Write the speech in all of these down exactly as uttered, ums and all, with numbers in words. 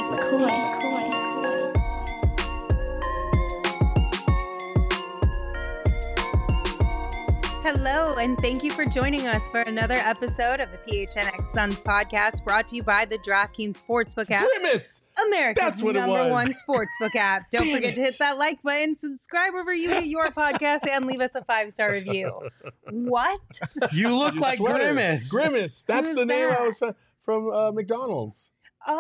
McCoy, McCoy, McCoy. Hello, and thank you for joining us for another episode of the P H N X Suns podcast, brought to you by the DraftKings Sportsbook app. Grimace! America's That's what it number was. one sportsbook app. Don't Damn forget to it. hit that like button, subscribe wherever you get your podcast, and leave us a five-star review. What? You look Your like sweater. Grimace. Grimace. That's Who's the name that? I was trying from uh, McDonald's.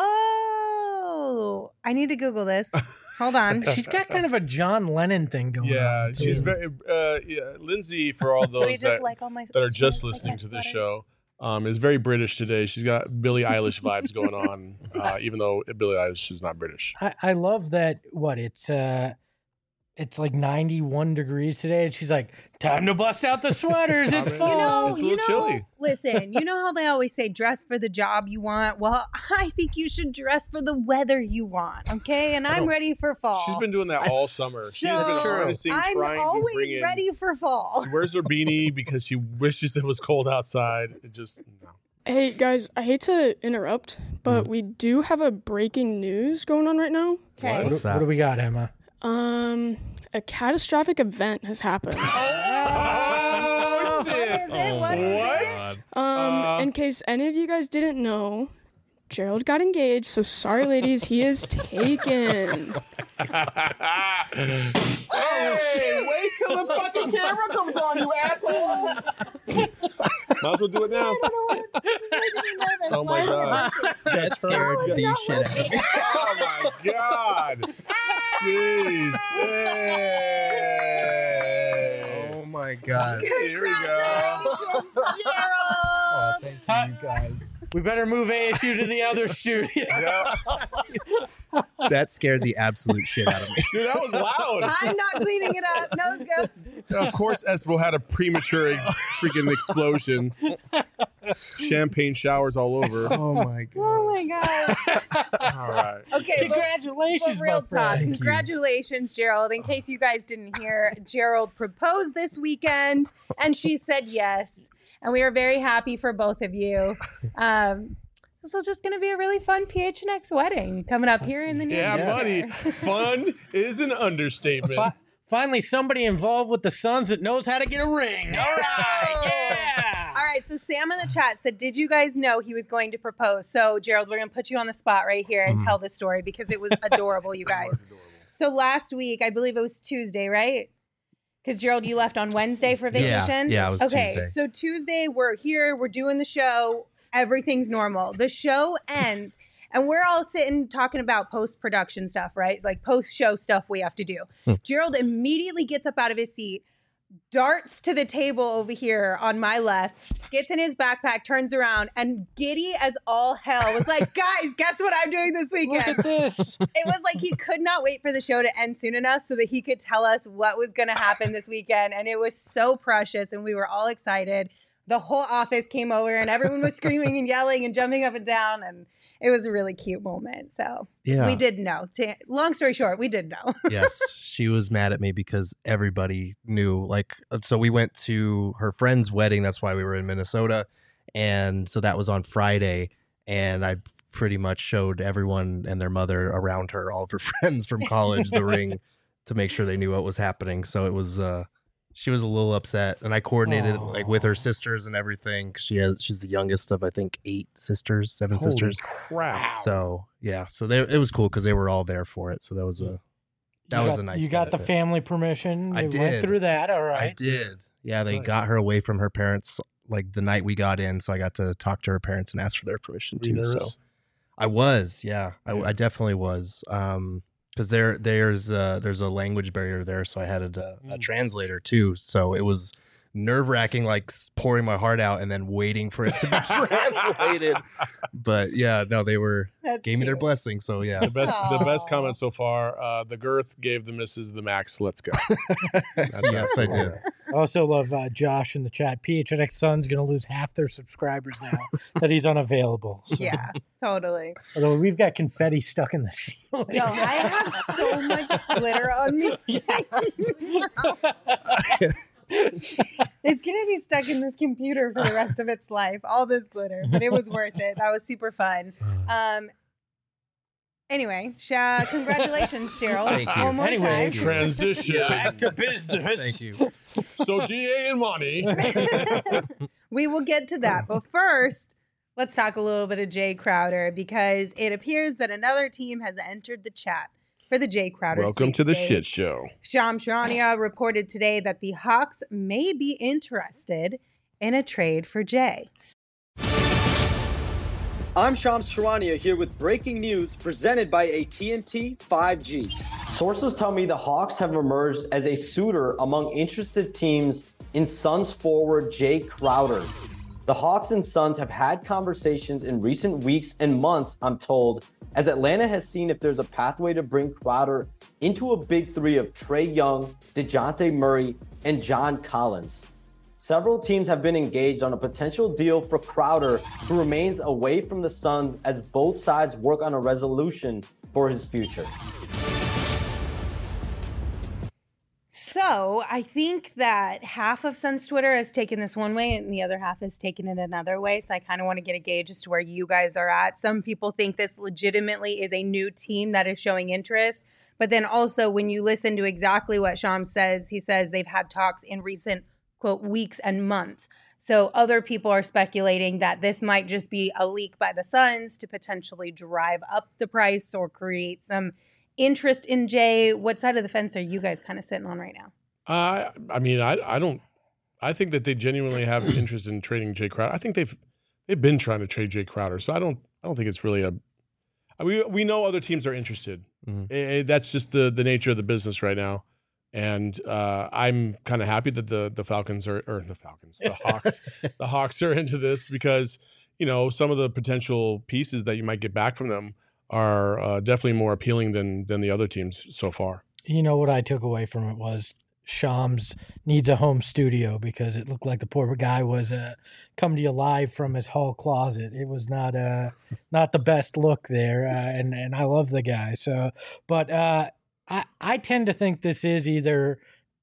Oh, I need to Google this. Hold on. She's got kind of a John Lennon thing going Yeah, on. she's too. very. Uh, yeah, Lindsay, for all Do we those just that, like all my that are just just like listening my to the sweaters? show, um, is very British today. She's got Billie Eilish vibes going on, uh, even though Billie Eilish is not British. I, I love that. What it's uh, it's like ninety-one degrees today, and she's like, "Time to bust out the sweaters. I It's mean, fall." You know, It's a you little know, chilly. listen, you know how they always say dress for the job you want? Well, I think you should dress for the weather you want, okay? And I'm don't- ready for fall. She's been doing that all summer. She's been So, harnessing, I'm trying to always bring in. ready for fall. She wears her beanie because she wishes it was cold outside. It just no. Hey guys, I hate to interrupt, but we do have a breaking news going on right now. Okay. What, do- what do we got, Emma? Um, a catastrophic event has happened. Oh, What is it? What is it? Um, Uh. in case any of you guys didn't know, Gerald got engaged, so sorry ladies, he is taken. Hey, wait till the fucking camera comes on, you asshole! Might as well do it now. I don't know what it- this is making me nervous. Oh my Why? god! That scared the shit out of me. Oh my god! Jeez! Hey. Oh my god. Here we go. Congratulations, Gerald! Thank Hi. you guys. We better move A S U to the other studio. Yeah. That scared the absolute shit out of me. Dude, that was loud. I'm not cleaning it up. Nose goes. Of course, Espo had a premature freaking explosion. Champagne showers all over. Oh my god. Oh my god. All right. Okay, but, Congratulations, but real my friend. talk. Thank you. Congratulations, Gerald. In case you guys didn't hear, Gerald proposed this weekend and she said yes. And we are very happy for both of you. Um, this is just going to be a really fun P H N X wedding coming up here in the near Yeah, future. buddy. Fun is an understatement. Fi- Finally, somebody involved with the Suns that knows how to get a ring. All right, yeah. All right, so Sam in the chat said, did you guys know he was going to propose? So, Gerald, we're going to put you on the spot right here and tell this story because it was adorable, you guys. So last week, I believe it was Tuesday, right? Because, Gerald, you left on Wednesday for Yeah, vacation? yeah, it was okay, Tuesday. so Tuesday, we're here, we're doing the show, everything's normal. The show ends, and we're all sitting talking about post-production stuff, right? It's like post-show stuff we have to do. Hmm. Gerald immediately gets up out of his seat, darts to the table over here on my left, gets in his backpack, turns around, and giddy as all hell was like, guys, guess what I'm doing this Look weekend? at this. It was like he could not wait for the show to end soon enough so that he could tell us what was going to happen this weekend. And it was so precious, and we were all excited. The whole office came over, and everyone was screaming and yelling and jumping up and down, and it was a really cute moment. So Yeah. we did know. To, long story short, we did know. Yes, she was mad at me because everybody knew. Like, so we went to her friend's wedding. That's why we were in Minnesota, and so that was on Friday. And I pretty much showed everyone and their mother around her, all of her friends from college, the ring to make sure they knew what was happening. So it was. uh She was a little upset, and I coordinated it, like with her sisters and everything. 'Cause she has, she's the youngest of I think eight sisters, seven Holy sisters. crap. So yeah, so they, it was cool because they were all there for it. So that was a that You was got- a nice. You got the benefit. family permission. I They went did. through that. All I right. did. Yeah, they Nice. got her away from her parents like the night we got in, so I got to talk to her parents and ask for their permission Were you too. So nervous? I was, yeah, I, Yeah. I definitely was. Um, because there there's uh there's a language barrier there, so I had a, a Mm. translator too. So it was nerve wracking, like s- pouring my heart out and then waiting for it to be translated. But yeah, no, they were That's gave me their cute. blessing. So yeah, The best, the best Aw. comment so far. Uh, the girth gave the missus the max. Let's go. That's yes, I did. I also love uh, Josh in the chat. P H N X Sun's going to lose half their subscribers now that he's unavailable. So- Yeah, totally. Although we've got confetti stuck in the ceiling. Yo, I have so much glitter on me. It's gonna be stuck in this computer for the rest of its life. All this glitter, but it was worth it. That was super fun. Um, Anyway, Sha, congratulations, Gerald. Thank you. One more Anyway, time. Transition. Back to business. Thank you. So D A and Monty. We will get to that. But first, let's talk a little bit of Jay Crowder because it appears that another team has entered the chat for the Jay Crowder Welcome to the sweepstakes. shit show. Shams Charania reported today that the Hawks may be interested in a trade for Jay. I'm Shams Charania here with breaking news presented by A T and T five G. Sources tell me the Hawks have emerged as a suitor among interested teams in Suns forward Jay Crowder. The Hawks and Suns have had conversations in recent weeks and months, I'm told, as Atlanta has seen if there's a pathway to bring Crowder into a big three of Trae Young, DeJounte Murray, and John Collins. Several teams have been engaged on a potential deal for Crowder, who remains away from the Suns as both sides work on a resolution for his future. So I think that half of Suns Twitter has taken this one way and the other half has taken it another way. So I kind of want to get a gauge as to where you guys are at. Some people think this legitimately is a new team that is showing interest. But then also when you listen to exactly what Shams says, he says they've had talks in recent, quote, weeks and months. So other people are speculating that this might just be a leak by the Suns to potentially drive up the price or create some interest in Jay. What side of the fence are you guys kind of sitting on right now? Uh, I mean, I I don't. I think that they genuinely have interest in trading Jay Crowder. I think they've they've been trying to trade Jay Crowder. So I don't I don't think it's really a. We we know other teams are interested. Mhm. Eh, that's just the the nature of the business right now. And uh, I'm kind of happy that the the Falcons are or the Falcons, the Hawks, the Hawks are into this because you know some of the potential pieces that you might get back from them are uh, definitely more appealing than than the other teams so far. You know what I took away from it was Shams needs a home studio because it looked like the poor guy was uh, come to you live from his hall closet. It was not uh not the best look there, uh, and and I love the guy. So, but uh, I I tend to think this is either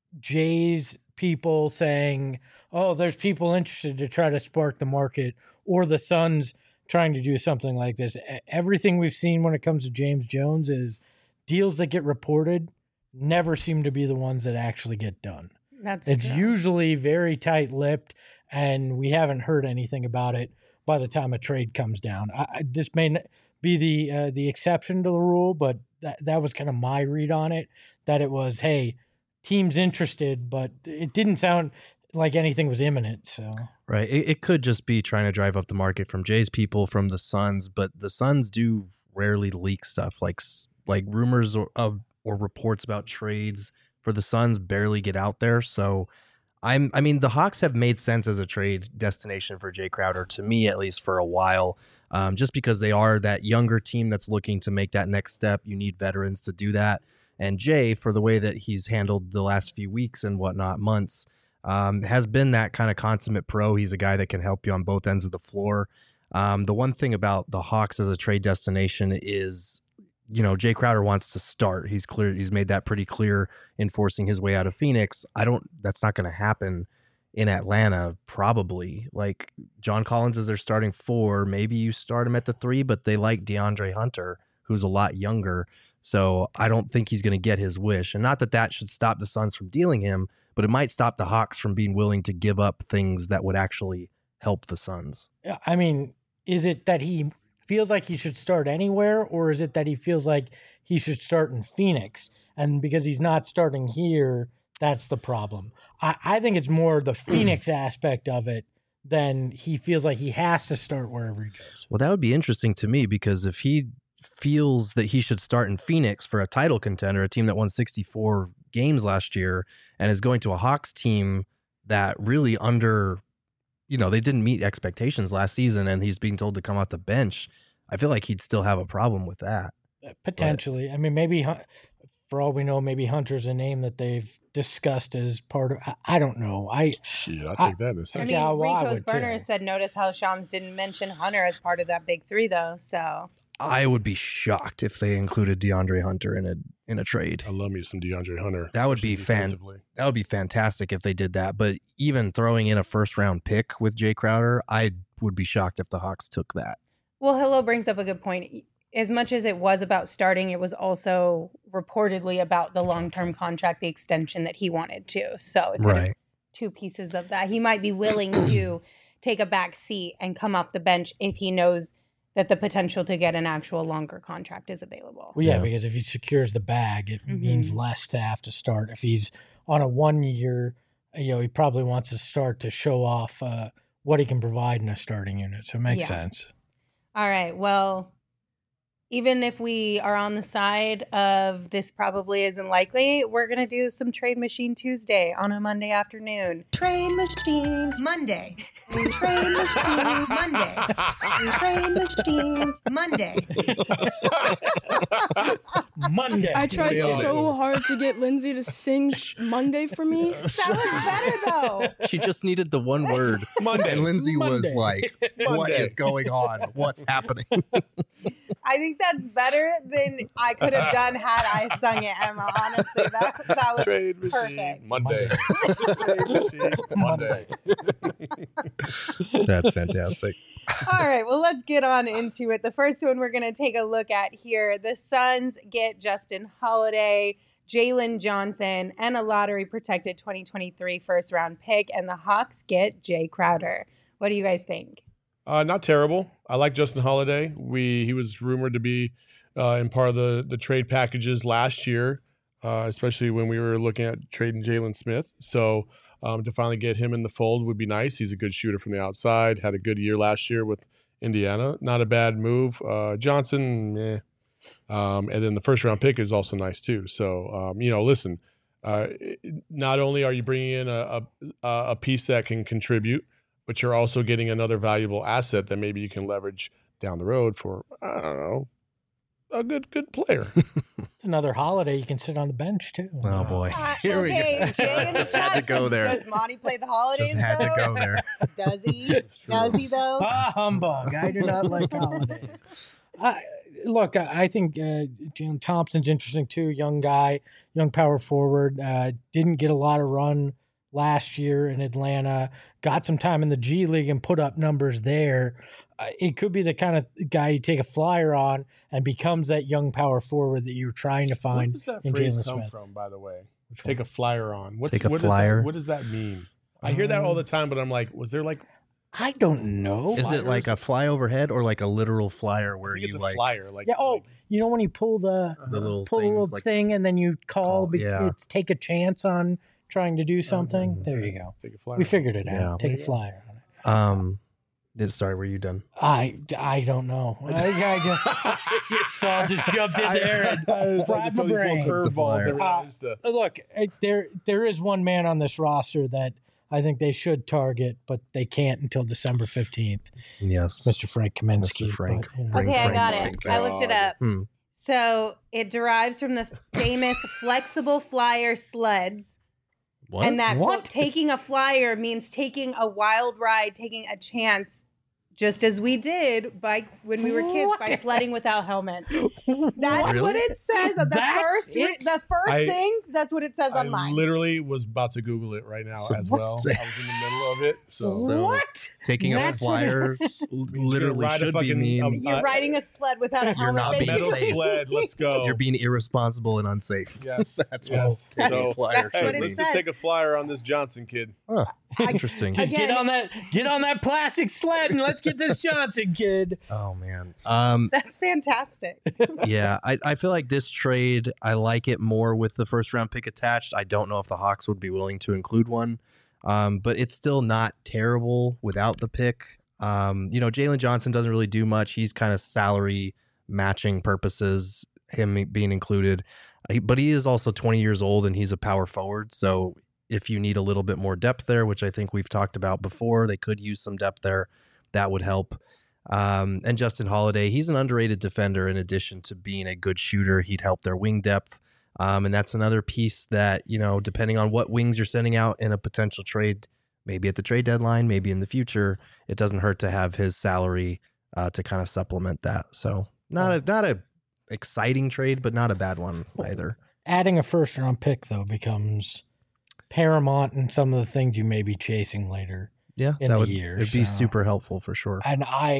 Jay's people saying, "Oh, there's people interested to try to spark the market," or the Suns trying to do something like this. E- Everything we've seen when it comes to James Jones is deals that get reported never seem to be the ones that actually get done. That's It's true. usually very tight-lipped, and we haven't heard anything about it by the time a trade comes down. I, I, this may n- be the uh, the exception to the rule, but that that was kind of my read on it. That it was, hey, teams interested, but it didn't sound like anything was imminent. So Right. It, it could just be trying to drive up the market from Jay's people, from the Suns, but the Suns do rarely leak stuff like s- like rumors or of or reports about trades for the Suns barely get out there. So I'm I mean the Hawks have made sense as a trade destination for Jay Crowder, to me at least, for a while. Um, just because they are that younger team that's looking to make that next step. You need veterans to do that. And Jay, for the way that he's handled the last few weeks and whatnot, months, um, has been that kind of consummate pro. He's a guy that can help you on both ends of the floor. Um, the one thing about the Hawks as a trade destination is, you know, Jay Crowder wants to start. He's clear. He's made that pretty clear in forcing his way out of Phoenix. I don't, that's not going to happen in Atlanta, probably. Like, John Collins is their starting four. Maybe you start him at the three, but they like DeAndre Hunter, who's a lot younger. So I don't think he's going to get his wish. And not that that should stop the Suns from dealing him, but it might stop the Hawks from being willing to give up things that would actually help the Suns. Yeah, I mean, is it that he feels like he should start anywhere, or is it that he feels like he should start in Phoenix? And because he's not starting here, that's the problem. I, I think it's more the Phoenix aspect of it than he feels like he has to start wherever he goes. Well, that would be interesting to me, because if he feels that he should start in Phoenix for a title contender, a team that won sixty-four games last year, and is going to a Hawks team that really under, you know, they didn't meet expectations last season, and he's being told to come off the bench, I feel like he'd still have a problem with that. Potentially. I mean, maybe, Hun- for all we know, maybe Hunter's a name that they've discussed as part of, I, I don't know. I Shit, I'll I- take that in a I second. mean, Yeah, well, I Rico's would too. Burner said, notice how Shams didn't mention Hunter as part of that big three, though. So I would be shocked if they included DeAndre Hunter in a in a trade. I love me some DeAndre Hunter. That would especially be fan- defensively. That would be fantastic if they did that. But even throwing in a first round pick with Jay Crowder, I would be shocked if the Hawks took that. Well, Hello brings up a good point. as much as it was about starting, it was also reportedly about the long-term contract, the extension that he wanted to. So it's kind of Right. two pieces of that. He might be willing to take a back seat and come off the bench if he knows that the potential to get an actual longer contract is available. Well, yeah, Yeah. because if he secures the bag, it Mhm. means less to have to start. If he's on a one year, you know, he probably wants to start to show off uh, what he can provide in a starting unit. So it makes Yeah. sense. All right. Well, even if we are on the side of this probably isn't likely, we're going to do some Trade Machine Tuesday on a Monday afternoon. Trade Machine Monday. Trade Machine Monday. Trade Machine Monday. Monday. I tried Nailed it. so hard to get Lindsay to sing Monday for me. That was better though. She just needed the one word. Monday. And Lindsay was Monday. like, what Monday. is going on? What's happening? I think that's better than I could have done had I sung it, Emma. Honestly, that that was Trade machine perfect. Monday. Trade machine Monday. That's fantastic. All right, well, let's get on into it. The first one we're going to take a look at here. The Suns get Justin Holiday, Jalen Johnson, and a lottery protected twenty twenty-three first round pick, and the Hawks get Jay Crowder. What do you guys think? Uh, not terrible. I like Justin Holiday. We he was rumored to be uh, in part of the the trade packages last year, uh, especially when we were looking at trading Jalen Smith. So um, to finally get him in the fold would be nice. He's a good shooter from the outside. Had a good year last year with Indiana. Not a bad move. Uh, Johnson, eh. Um, and then the first round pick is also nice too. So um, you know, listen. Uh, not only are you bringing in a, a a piece that can contribute, but you're also getting another valuable asset that maybe you can leverage down the road for, I don't know, a good good player. It's another Holiday. You can sit on the bench too. Oh, boy. Uh, Here we okay, go. Jay in the Just had to chat go says, there. Does Monty play the holidays? Just had to though? go there. Does he? It's true. Does he though? Ah, humbug. I do not like holidays. I, look, I, I think uh, Jalen Thompson's interesting too. Young guy, young power forward. Uh, didn't get a lot of run last year in Atlanta. Got some time in the G League and put up numbers there. Uh, it could be the kind of guy you take a flyer on and becomes that young power forward that you're trying to Where find does that in phrase Jalen come Smith. from, by the way? Which Take one? a flyer on. What's, Take a what does flyer? that, what does that mean? I hear that all the Um, time, but I'm like, was there like, I don't know. Is it like a fly overhead or like a literal flyer I where think you it's a like flyer. Like, Yeah. Oh, like- you know when you pull the the little pull a things little like thing and then you call, Call, be- yeah. it's take a chance on trying to do something. Mhm. There you go. take a flyer. We figured it out. Yeah. Take There a you go. flyer on it. um this, sorry, were you done? I, I don't know. I, I just, Saul just jumped in there and It's like fried it's my all these little brain. curveballs flyer. every now and then. Uh, Look, uh, there there is one man on this roster that I think they should target, but they can't until December fifteenth. Yes. Mister Frank Kaminsky. Mister Frank. but, you know. Bring Okay, I Frank got to it. take I that. looked it up. Hmm. So it derives from the famous flexible flyer sleds. What? And that What? quote, taking a flyer means taking a wild ride, taking a chance, just as we did by when we were kids by What? sledding without helmets. That's Really? what it says. The That's first, it? the first I- thing. That's what it says I on mine. literally was about to Google it right now So as what? well. I was in the middle of it. So, So- What? Taking a That's what it flyer Means you're literally gonna ride a should be fucking, mean um, You're uh, riding a sled without a You're helmet. not being metal basically. safe. sled. Let's go. you're being irresponsible and unsafe. yes. That's yes. what That's- So, flyer that's hey, what it let's says. just take a flyer on this Johnson kid. Huh. I- Interesting. Just Again- get on that get on that plastic sled and let's get this Johnson kid. Oh man. Um That's fantastic. yeah, I, I feel like this trade, I like it more with the first round pick attached. I don't know if the Hawks would be willing to include one, um, but it's still not terrible without the pick. Um, you know, Jalen Johnson doesn't really do much. He's kind of salary matching purposes, him being included. He- But he is also twenty years old and he's a power forward. So if you need a little bit more depth there, which I think we've talked about before, they could use some depth there. That would help. Um, and Justin Holiday, he's an underrated defender in addition to being a good shooter. He'd help their wing depth. Um, and that's another piece that, you know, depending on what wings you're sending out in a potential trade, maybe at the trade deadline, maybe in the future, it doesn't hurt to have his salary uh, to kind of supplement that. So not a not a exciting trade, but not a bad one either. Adding a first round pick though becomes paramount in some of the things you may be chasing later. Yeah, In that the would year, it'd be so- super helpful for sure. And I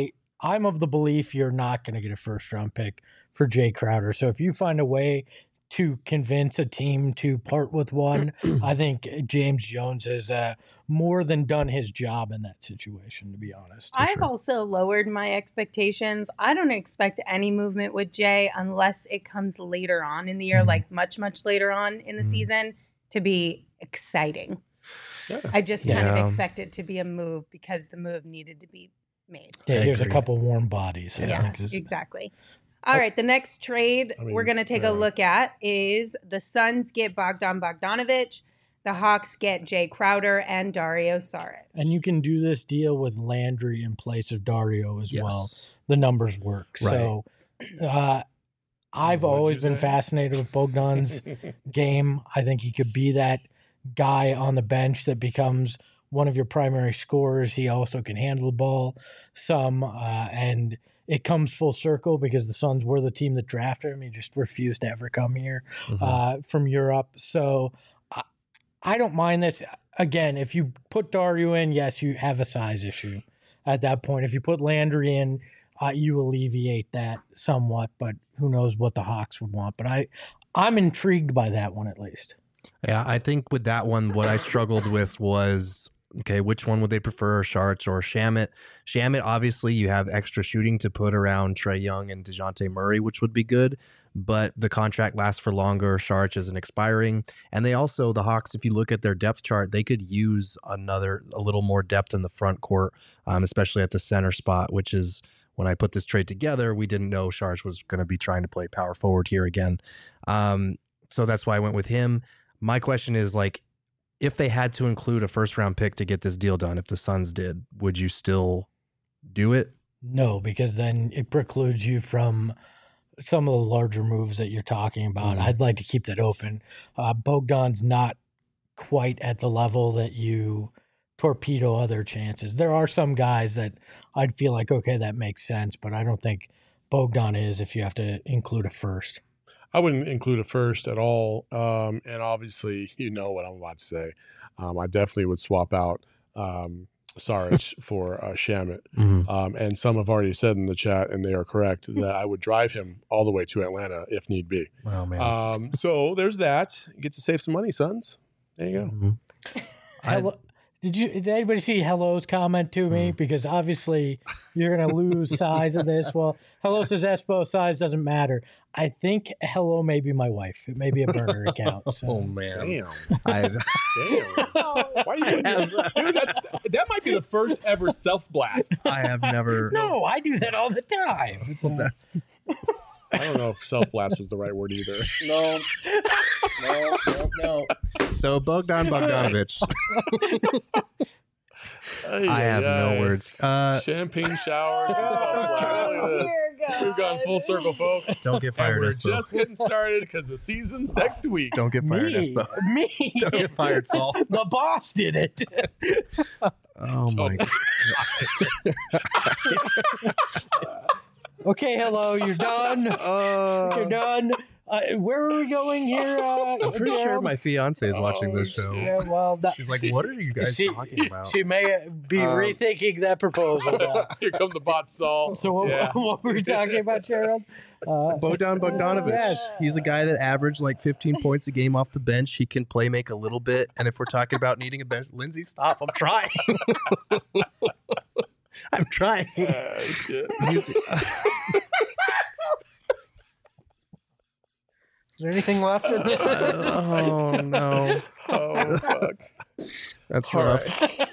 I'm of the belief you're not going to get a first round pick for Jay Crowder. So if you find a way to convince a team to part with one, I think James Jones has uh, more than done his job in that situation, to be honest. I've sure. also lowered my expectations. I don't expect any movement with Jay unless it comes later on in the year, Mhm. like much, much later on in the Mhm. season, to be exciting. Yeah. I just kind Yeah. of expect it to be a move because the move needed to be made. Yeah, I here's a agree. couple warm bodies. I Yeah, think is- exactly. All right, the next trade I mean, we're going to take yeah. a look at is the Suns get Bogdan Bogdanovic, the Hawks get Jay Crowder and Dario Saric. And you can do this deal with Landry in place of Dario as well. Yes. The numbers work. Right. So uh, I've What'd always you been say? fascinated with Bogdan's game. I think he could be that guy on the bench that becomes one of your primary scorers. He also can handle the ball some, uh, and it comes full circle because the Suns were the team that drafted him. He just refused to ever come here Mhm. uh, from Europe. So I, I don't mind this. Again, if you put Dario in, yes, you have a size issue at that point. If you put Landry in, uh, you alleviate that somewhat, but who knows what the Hawks would want. But I, I'm intrigued by that one at least. Yeah, I think with that one, what I struggled with was, okay, which one would they prefer, Sharts or Shamit? Shamit, obviously, you have extra shooting to put around Trae Young and DeJounte Murray, which would be good, but the contract lasts for longer. Sharts isn't expiring. And they also, the Hawks, if you look at their depth chart, they could use another, a little more depth in the front court, um, especially at the center spot, which is, when I put this trade together, we didn't know Sharts was going to be trying to play power forward here again. Um, so that's why I went with him. My question is, like, if they had to include a first round pick to get this deal done, if the Suns did, would you still do it? No, because then it precludes you from some of the larger moves that you're talking about. Mhm. I'd like to keep that open. Uh, Bogdan's not quite at the level that you torpedo other chances. There are some guys that I'd feel like, okay, that makes sense, but I don't think Bogdan is if you have to include a first. I wouldn't include a first at all. Um, and obviously, you know what I'm about to say. Um, I definitely would swap out um, Saric for uh, Shamit. Mm-hmm. Um, and some have already said in the chat, and they are correct, that I would drive him all the way to Atlanta if need be. Oh, man. Um, so there's that. You get to save some money, Suns. There you go. Mhm. I- Hello, did you? Did anybody see Hello's comment to me? Mm. Because obviously you're going to lose size of this. Well, Hello says Espo size doesn't matter. I think Hello may be my wife. It may be a burner account. So. Oh, man. Damn. I, Damn. Why you Dude, that's, that might be the first ever self blast. I have never. No, I do that all the time. that- I don't know if self blast was the right word either. No. No, no, no. So Bogdan Bogdanovic. I have no words. Uh, Champagne showers. and self-blast. Look at this. We've gone full circle, folks. don't get And fired, we're Espo. just getting started because the season's next week. Don't get fired, Me, Espo. me. Don't get fired, Saul. The boss did it. Oh, my God. Okay, Hello, you're done. You're done. Uh, where are we going here? Uh, I'm pretty sure Gerald? my fiance is watching this show. Yeah, well, that, She's like, what are you guys she, talking about? She may be Um, rethinking that proposal. now. Here come the bot, Saul. So what, Yeah. what were we talking about, Gerald? Uh, Bogdan Bogdanovic. Yes. He's a guy that averaged like fifteen points a game off the bench. He can play make a little bit. And if we're talking about needing a bench, Lindsay, stop. I'm trying. I'm trying. Ah, shit. He's- Is there anything left in this? oh, no. Oh, fuck. That's All rough. right.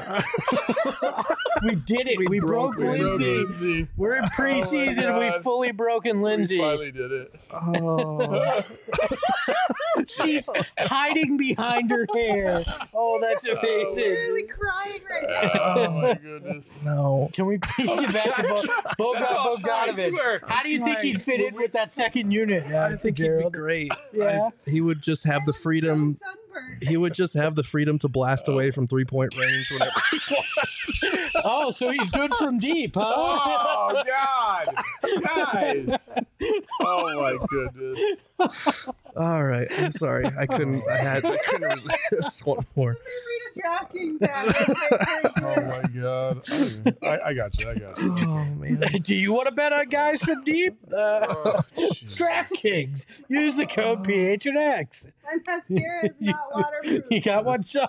We did it. We, We broke, broke Lindsay. Lindsay. We're in preseason. God. We've fully broken Lindsay. We finally did it. Oh. She's hiding behind her hair. Oh, that's amazing. Really crying right now. Oh, my goodness. No. Can we please get back to Bo- Bogdan I Bogdanovic? swear. How do you think he'd fit in with that second unit? Uh, I think Gerald? he'd be great. Yeah. I- he would just have the freedom. He would just have the freedom to blast away from three point range whenever he wants. Oh, so he's good from deep, huh? Oh, God. Guys. Oh, my goodness. All right. I'm sorry. I couldn't. I had. I couldn't resist one more. DraftKings app. Oh my god! I, I got you. I got you. Oh man. Do you want to bet on guys from deep? Uh, Oh, jeez. DraftKings. Use the code P H N X. My mascara is not waterproof. You got one, Saul?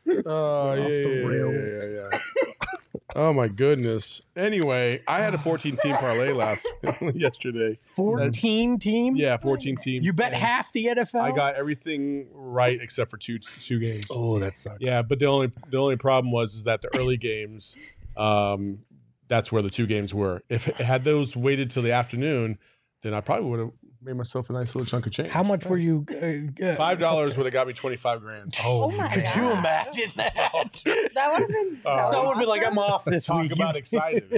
Oh yeah, Off the yeah, yeah, rails. yeah, yeah, yeah. Oh my goodness. Anyway, I had a fourteen team parlay last yesterday. fourteen team? Yeah, fourteen teams. You bet and half the N F L? I got everything right except for two two games. Oh, that sucks. Yeah, but the only the only problem was is that the early games, um, that's where the two games were. If had those waited till the afternoon, then I probably would have made myself a nice little chunk of change. How much were you? Uh, uh, Five dollars would have got me twenty five grand. Oh my Could God. you imagine that? That would have been so Oh. Someone would be like, awesome. I'm off this Talk week. about excited.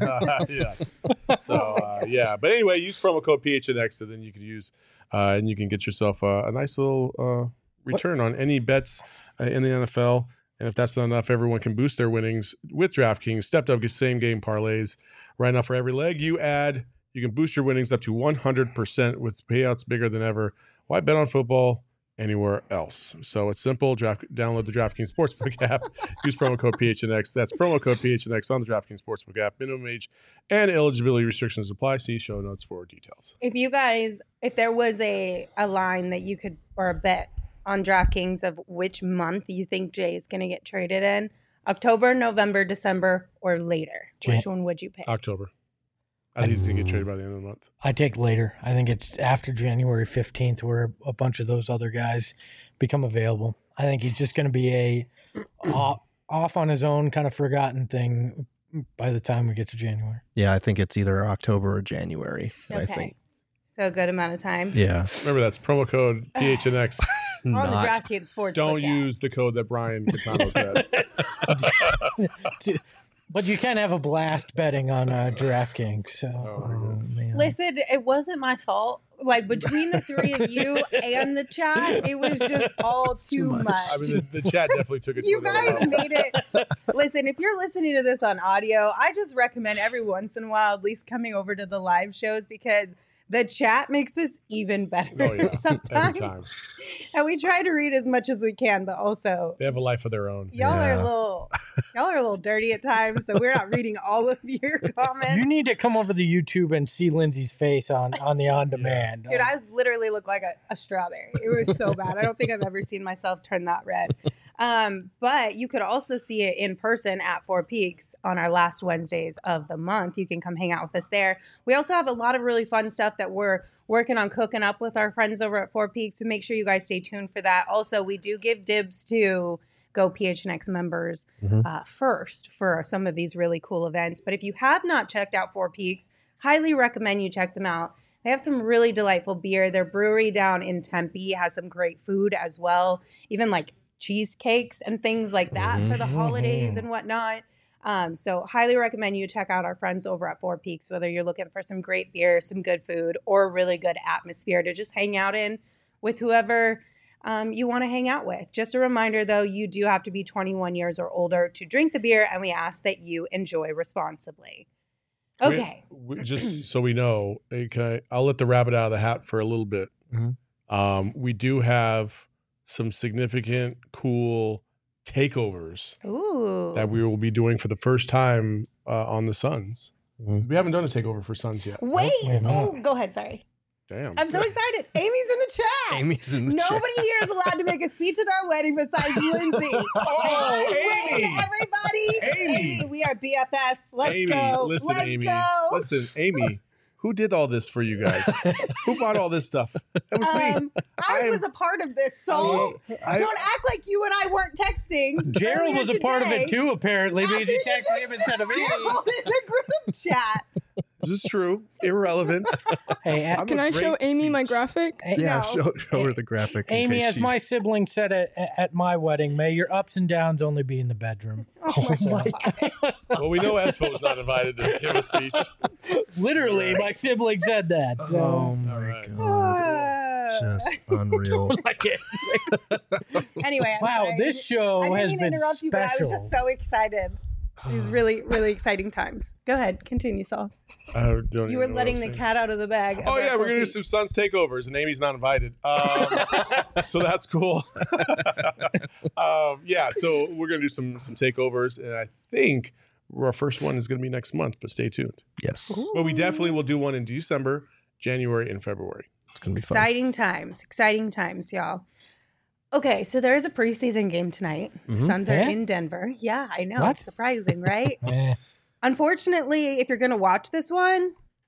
Yes. So uh, yeah, but anyway, use promo code P H N X, and then you can use uh, and you can get yourself uh, a nice little uh, return on any bets uh, in the N F L. And if that's not enough, everyone can boost their winnings with DraftKings. Stepped up same game parlays. Right now, for every leg you add, you can boost your winnings up to one hundred percent with payouts bigger than ever. Why bet on football anywhere else? So it's simple. Draft, download the DraftKings Sportsbook app. Use promo code P H N X. That's promo code P H N X on the DraftKings Sportsbook app. Minimum age and eligibility restrictions apply. See show notes for details. If you guys, if there was a, a line that you could, or a bet on DraftKings of which month you think Jay is going to get traded in, October, November, December, or later, Jan- which one would you pick? October. I think he's going to get traded by the end of the month. I take later. I think it's after January fifteenth where a bunch of those other guys become available. I think he's just going to be a off, off on his own kind of forgotten thing by the time we get to January. Yeah, I think it's either October or January. I Okay. think. So a good amount of time. Yeah. Remember, that's promo code P H N X. On the Not. DraftKings Sports. Don't use the code that Brian Catano said. But you can have a blast betting on uh, DraftKings. So Oh, my Oh, goodness. man. Listen, it wasn't my fault. Like between the three of you and the chat, it was just all too much. much. I mean, the, the chat definitely took it to You another guys level. made it. Listen, if you're listening to this on audio, I just recommend every once in a while at least coming over to the live shows because the chat makes this even better Oh, yeah. Every sometimes. time. And we try to read as much as we can, but also They have a life of their own. y'all Yeah. are a little y'all are a little dirty at times, so we're not reading all of your comments. you need to come over to YouTube and see Lindsay's face on, on the on demand. Dude, I literally look like a, a strawberry. It was so bad. I don't think I've ever seen myself turn that red. Um, but you could also see it in person at Four Peaks on our last Wednesdays of the month. You can come hang out with us there. We also have a lot of really fun stuff that we're working on cooking up with our friends over at Four Peaks. So make sure you guys stay tuned for that. Also, we do give dibs to Go P H N X members Mhm. uh, first for some of these really cool events. But if you have not checked out Four Peaks, highly recommend you check them out. They have some really delightful beer. Their brewery down in Tempe has some great food as well, even like cheesecakes and things like that for the holidays and whatnot. Um, so highly recommend you check out our friends over at Four Peaks, whether you're looking for some great beer, some good food, or a really good atmosphere to just hang out in with whoever um, you want to hang out with. Just a reminder, though, you do have to be twenty-one years or older to drink the beer, and we ask that you enjoy responsibly. Okay. We, we- just so we know, okay, I'll let the rabbit out of the hat for a little bit. Mhm. Um, we do have some significant, cool takeovers Ooh. that we will be doing for the first time uh, on the Suns. Mhm. We haven't done a takeover for Suns yet. Wait. Wait a minute. Oh, go ahead. Sorry. Damn. I'm so excited. Amy's in the chat. Amy's in the Nobody chat. here is allowed to make a speech at our wedding besides Lindsay. Oh, Wait, Amy. everybody. Amy. We are B F Fs. Let's Amy, go. listen, Let's Amy. go. Listen, Amy. Who did all this for you guys? Who bought all this stuff? That was me. Um, I I am- was a part of this, I so was- I- don't act like you and I weren't texting. Gerald earlier was a part of today. it too, apparently, because he After texted him instead of me. Gerald in the group chat. This is true. Irrelevant. Hey, a- I'm Can a I show great Amy my speech. graphic? hey, Yeah, No. show, show her the graphic. in Amy, case as she- my sibling said at, at my wedding, may your ups and downs only be in the bedroom. Oh my God. Well, we know Espo's not invited to give a speech. Literally, my sibling said that. So. Oh my All right. god. Uh, Just unreal. Like it. anyway, I'm Wow, sorry. this show I didn't has mean to been interrupt you, but I was special. just so excited. These really, really exciting times. Go ahead, continue, Saul. I don't You even were know what letting I'm the saying. cat out of the bag. Oh of yeah, our we're gonna do feet. some Suns takeovers, and Amy's not invited. Um, so that's cool. um, yeah, so we're gonna do some some takeovers, and I think our first one is gonna be next month. But stay tuned. Yes. But we definitely will do one in December, January, and February. It's going to be fun. Exciting times. Exciting times, y'all. Okay, so there is a preseason game tonight. Mhm. Suns are Yeah? in Denver. Yeah, I know. What? Surprising, right? Eh, Unfortunately, if you're going to watch this one,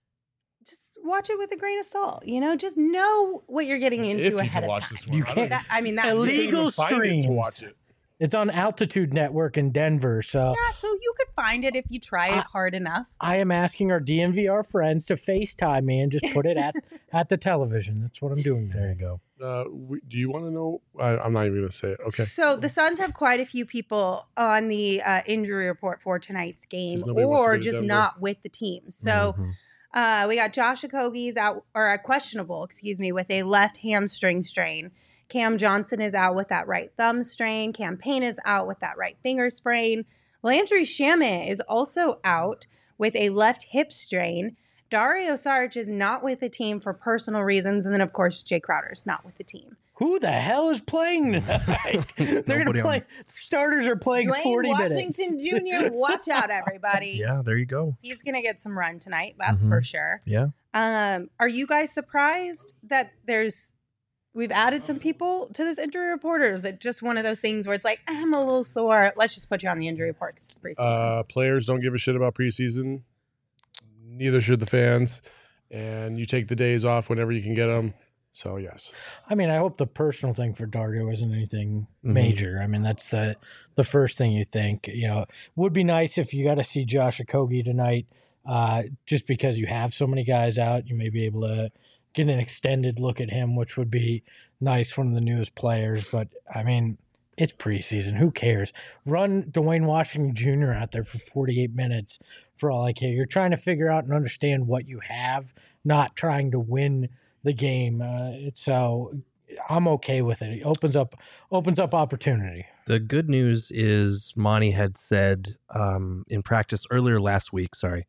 just watch it with a grain of salt. You know, just know what you're getting into if you ahead can of watch time. this one, You I don't can't. even- That, I mean, that you can't even Illegal find it to streams. watch it. It's on Altitude Network in Denver, so Yeah, so you could find it if you try it I- hard enough. I am asking our D M V R friends to FaceTime me and just put it at at the television. That's what I'm doing. There you go. Uh, we, do you want to know? I, I'm not even gonna say it. Okay. So the Suns have quite a few people on the uh, injury report for tonight's game, 'Cause nobody wants to or go to just Denver. not with the team. So Mhm. uh, we got Josh Okogie's out, or uh, questionable, excuse me, with a left hamstring strain. Cam Johnson is out with that right thumb strain. Cam Payne is out with that right finger sprain. Landry Shamet is also out with a left hip strain. Dario Saric is not with the team for personal reasons. And then, of course, Jay Crowder is not with the team. Who the hell is playing tonight? They're going Nobody to on- play. Starters are playing Dwayne forty Washington minutes. Junior, watch out, everybody. Yeah, there you go. He's going to get some run tonight. That's for sure. Yeah. Um, are you guys surprised that there's we've added some people to this injury report, or is it just one of those things where it's like, I'm a little sore, let's just put you on the injury report 'cause it's preseason? Uh, players don't give a shit about preseason. Neither should the fans. And you take the days off whenever you can get them. So yes, I mean, I hope the personal thing for Dario isn't anything Mhm. major. I mean, that's the the first thing you think. You know, would be nice if you got to see Josh Okogie tonight, uh, just because you have so many guys out. You may be able to get an extended look at him, which would be nice. One of the newest players, but I mean, it's preseason. Who cares? Run Dwayne Washington Junior out there for forty-eight minutes for all I care. You're trying to figure out and understand what you have, not trying to win the game. Uh, it's so I'm okay with it. It opens up opens up opportunity. The good news is Monty had said um, in practice earlier last week, sorry,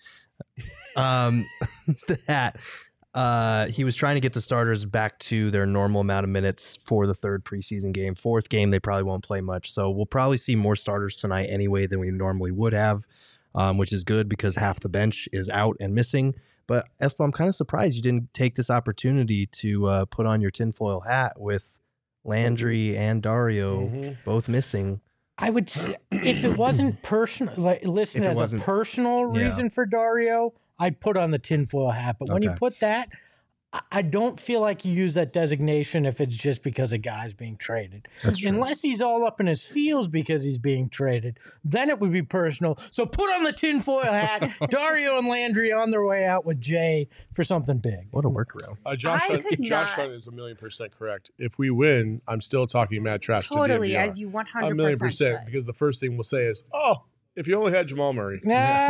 um, that uh, he was trying to get the starters back to their normal amount of minutes for the third preseason game. Fourth game, they probably won't play much. So we'll probably see more starters tonight anyway than we normally would have, um, which is good because half the bench is out and missing. But Espo, I'm kind of surprised you didn't take this opportunity to uh, put on your tinfoil hat with Landry and Dario Mhm. both missing. I would say if it wasn't personal, like listed If it as a wasn't- personal yeah. reason for Dario, I'd put on the tinfoil hat. But when you Okay. put that, I- I don't feel like you use that designation if it's just because a guy's being traded. That's true. Unless he's all up in his feels because he's being traded, then it would be personal. So put on the tinfoil hat. Dario and Landry on their way out with Jay for something big. What a workaround. Uh, Josh, I Hunt, could Josh not- Hunt is a million percent correct. If we win, I'm still talking mad trash Totally, to D M V R. as you one hundred a percent million percent, should. because the first thing we'll say is, "Oh, if you only had Jamal Murray."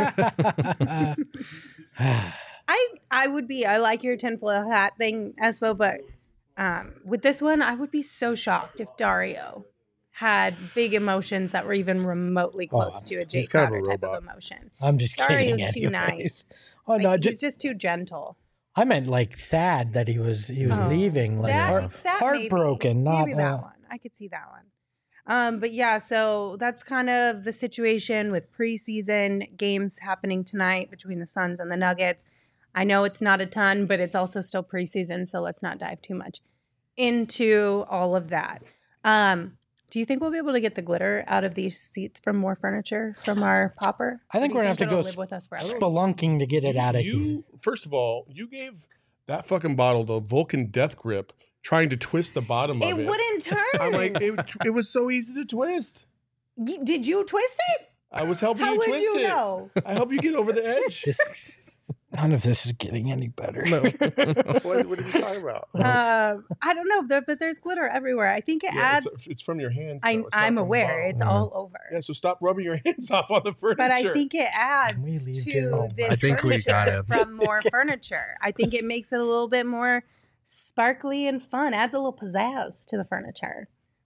I I would be. I like your tinfoil hat thing, Espo, but um, with this one, I would be so shocked if Dario had big emotions that were even remotely Oh, close to a Jay he's kind of a Crowder type robot. of emotion. I'm just Dario's kidding. too anyways. nice. Oh Like, no, he's just, just too gentle. I meant like sad that he was he was Oh, leaving, like that, heart, that heartbroken. Maybe, not maybe that uh, one. I could see that one. Um, but yeah, so that's kind of the situation with preseason games happening tonight between the Suns and the Nuggets. I know it's not a ton, but it's also still preseason, so let's not dive too much into all of that. Um, do you think we'll be able to get the glitter out of these seats from More Furniture from our popper? I think Or we're do you gonna have to it'll go live with us forever. spelunking to get it out of you, here. First of all, you gave that fucking bottle the Vulcan Death Grip, trying to twist the bottom It of it. wouldn't turn. I'm like, it, it was so easy to twist. Y- Did you twist it? I was helping How you would twist you it. know? I help you get over the edge. This, none of this is getting any better. what, what are you talking about? Um, I don't know, but, but there's glitter everywhere. I think it Yeah, adds. it's, it's from your hands. I, though. It's not I'm from the aware bottle. it's Mhm. all over, Yeah, so stop rubbing your hands off on the furniture. but I think it we adds leave to Joe? this I think we furniture gotta- from More Furniture. I think it makes it a little bit more sparkly and fun. Adds a little pizzazz to the furniture.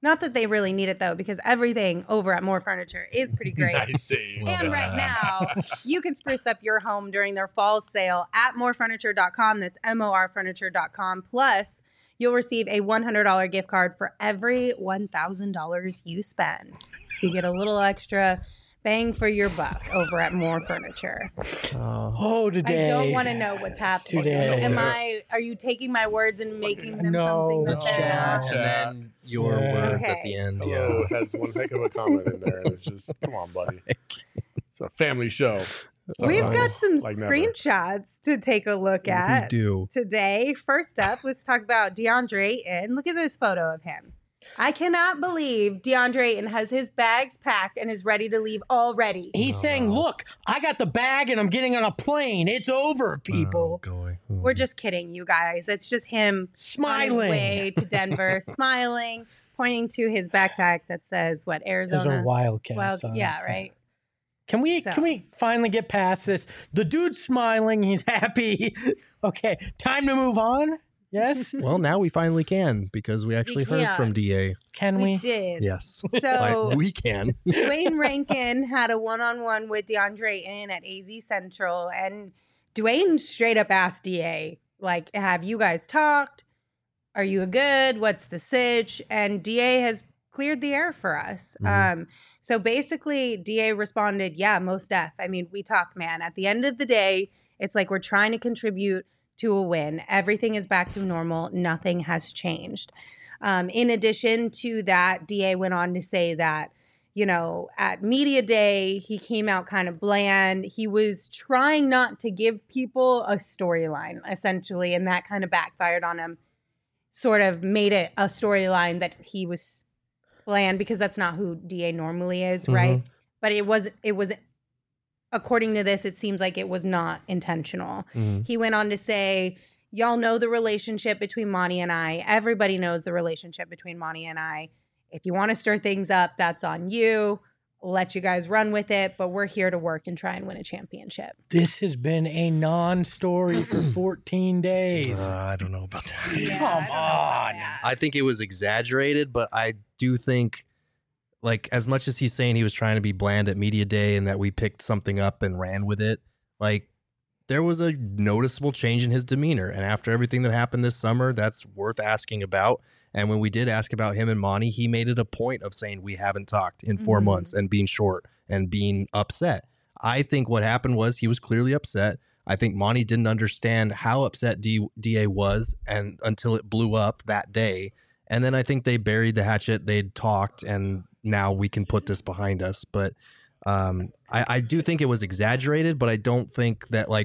Not that they really need it though, because everything over at More Furniture is pretty great. Nice save. And right now, you can spruce up your home during their fall sale at more furniture dot com. That's M O R furniture dot com. Plus, you'll receive a one hundred dollars gift card for every one thousand dollars you spend. So you get a little extra bang for your buck over at More Furniture. Oh. Oh, today. I don't want to know what's happening. Today. Am I? Are you taking my words and making them No, something The that they're chat not? and then your Yeah. words at Okay. the end. Hello Yeah. has one heck of a comment in there. And it's just, come on, buddy. It's a family show. We've got Sometimes, some like never. screenshots to take a look at We do. today. First up, let's talk about DeAndre Ayton. Look at this photo of him. I cannot believe DeAndre Ayton has his bags packed and is ready to leave already. He's Oh, saying, no. look, I got the bag and I'm getting on a plane. It's over, people. Oh, going. We're just kidding, you guys. It's just him on his Smiling. way to Denver, smiling, pointing to his backpack that says, what, There's Arizona? a Wildcats Wild, on it. yeah, right. Can we So- can we finally get past this? The dude's smiling. He's happy. Okay, time to move on. Yes, Well, now we finally can because we actually heard can. from D A. can We we? did. Yes. So Like, we can. Dwayne Rankin had a one-on-one with DeAndre Ayton at A Z Central, and Dwayne straight up asked D A, like, have you guys talked? Are you good? What's the sitch? And D A has cleared the air for us. Mhm. Um, so basically, D A responded, yeah, most def. I mean, we talk, man. At the end of the day, it's like we're trying to contribute to a win. Everything is back to normal. Nothing has changed. Um, in addition to that, D A went on to say that, you know, at Media Day, he came out kind of bland. He was trying not to give people a storyline, essentially, and that kind of backfired on him. Sort of made it a storyline that he was bland because that's not who D A normally is, right? But it was, it was, according to this, it seems like it was not intentional. Mhm. He went on to say, y'all know the relationship between Monty and I. Everybody knows the relationship between Monty and I. If you want to stir things up, that's on you. Let you guys run with it, but we're here to work and try and win a championship. This has been a non-story for fourteen days. Uh, I don't know about that. Yeah, Come I don't know about on. that. I think it was exaggerated, but I do think, like, as much as he's saying he was trying to be bland at Media Day and that we picked something up and ran with it, like, there was a noticeable change in his demeanor. And after everything that happened this summer, that's worth asking about. And when we did ask about him and Monty, he made it a point of saying we haven't talked in four Mhm. months and being short and being upset. I think what happened was he was clearly upset. I think Monty didn't understand how upset D- DA was and until it blew up that day. And then I think they buried the hatchet. They'd talked, and now we can put this behind us. But um, I, I do think it was exaggerated, but I don't think that, like,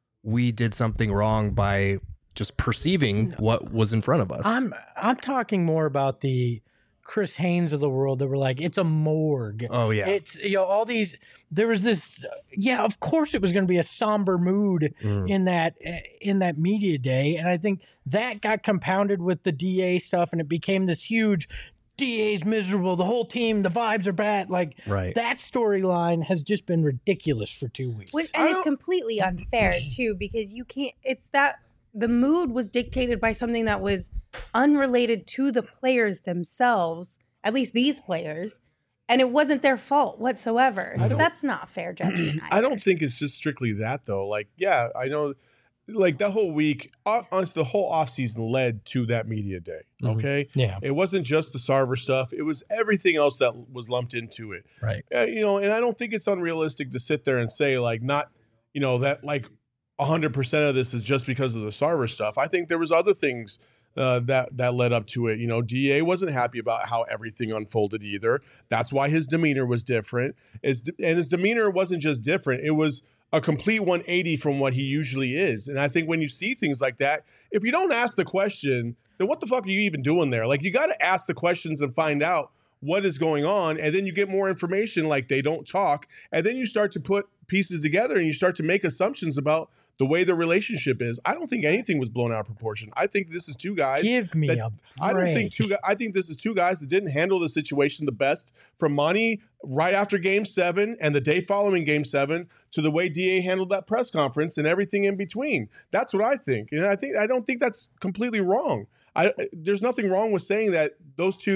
we did something wrong by just perceiving what was in front of us. I'm I'm talking more about the Chris Haynes of the world that were like, it's a morgue. oh, yeah. It's, you know, all these, there was this, yeah, of course it was going to be a somber mood Mm. in that, in that Media Day. And I think that got compounded with the D A stuff and it became this huge, D A's miserable, the whole team, the vibes are bad. Like Right. that storyline has just been ridiculous for two weeks. Which, I and it's don't- completely unfair too, because you can't. It's that the mood was dictated by something that was unrelated to the players themselves, at least these players, and it wasn't their fault whatsoever. I So don't- that's not fair judgment. I either. don't think it's just strictly that though. Like, yeah, I know, like that whole week, hon- honestly, the whole offseason led to that Media Day. Mhm. Okay, Yeah. it wasn't just the Sarver stuff; it was everything else that was lumped into it. Right. Uh, you know, and I don't think it's unrealistic to sit there and say like, not, you know, that like a hundred percent of this is just because of the Sarver stuff. I think there was other things uh, that that led up to it. You know, D A wasn't happy about how everything unfolded either. That's why his demeanor was different. Is and his demeanor wasn't just different; it was a complete one eighty from what he usually is. And I think when you see things like that, if you don't ask the question, then what the fuck are you even doing there? Like, you got to ask the questions and find out what is going on, and then you get more information. Like, they don't talk, and then you start to put pieces together and you start to make assumptions about the way the relationship is. I don't think anything was blown out of proportion. I think this is two guys. Give me that- a I don't think break. two guys. I think this is two guys that didn't handle the situation the best. From Monty right after Game Seven and the day following Game Seven to the way D A handled that press conference and everything in between. That's what I think, and I think I don't think that's completely wrong. I there's nothing wrong with saying that those two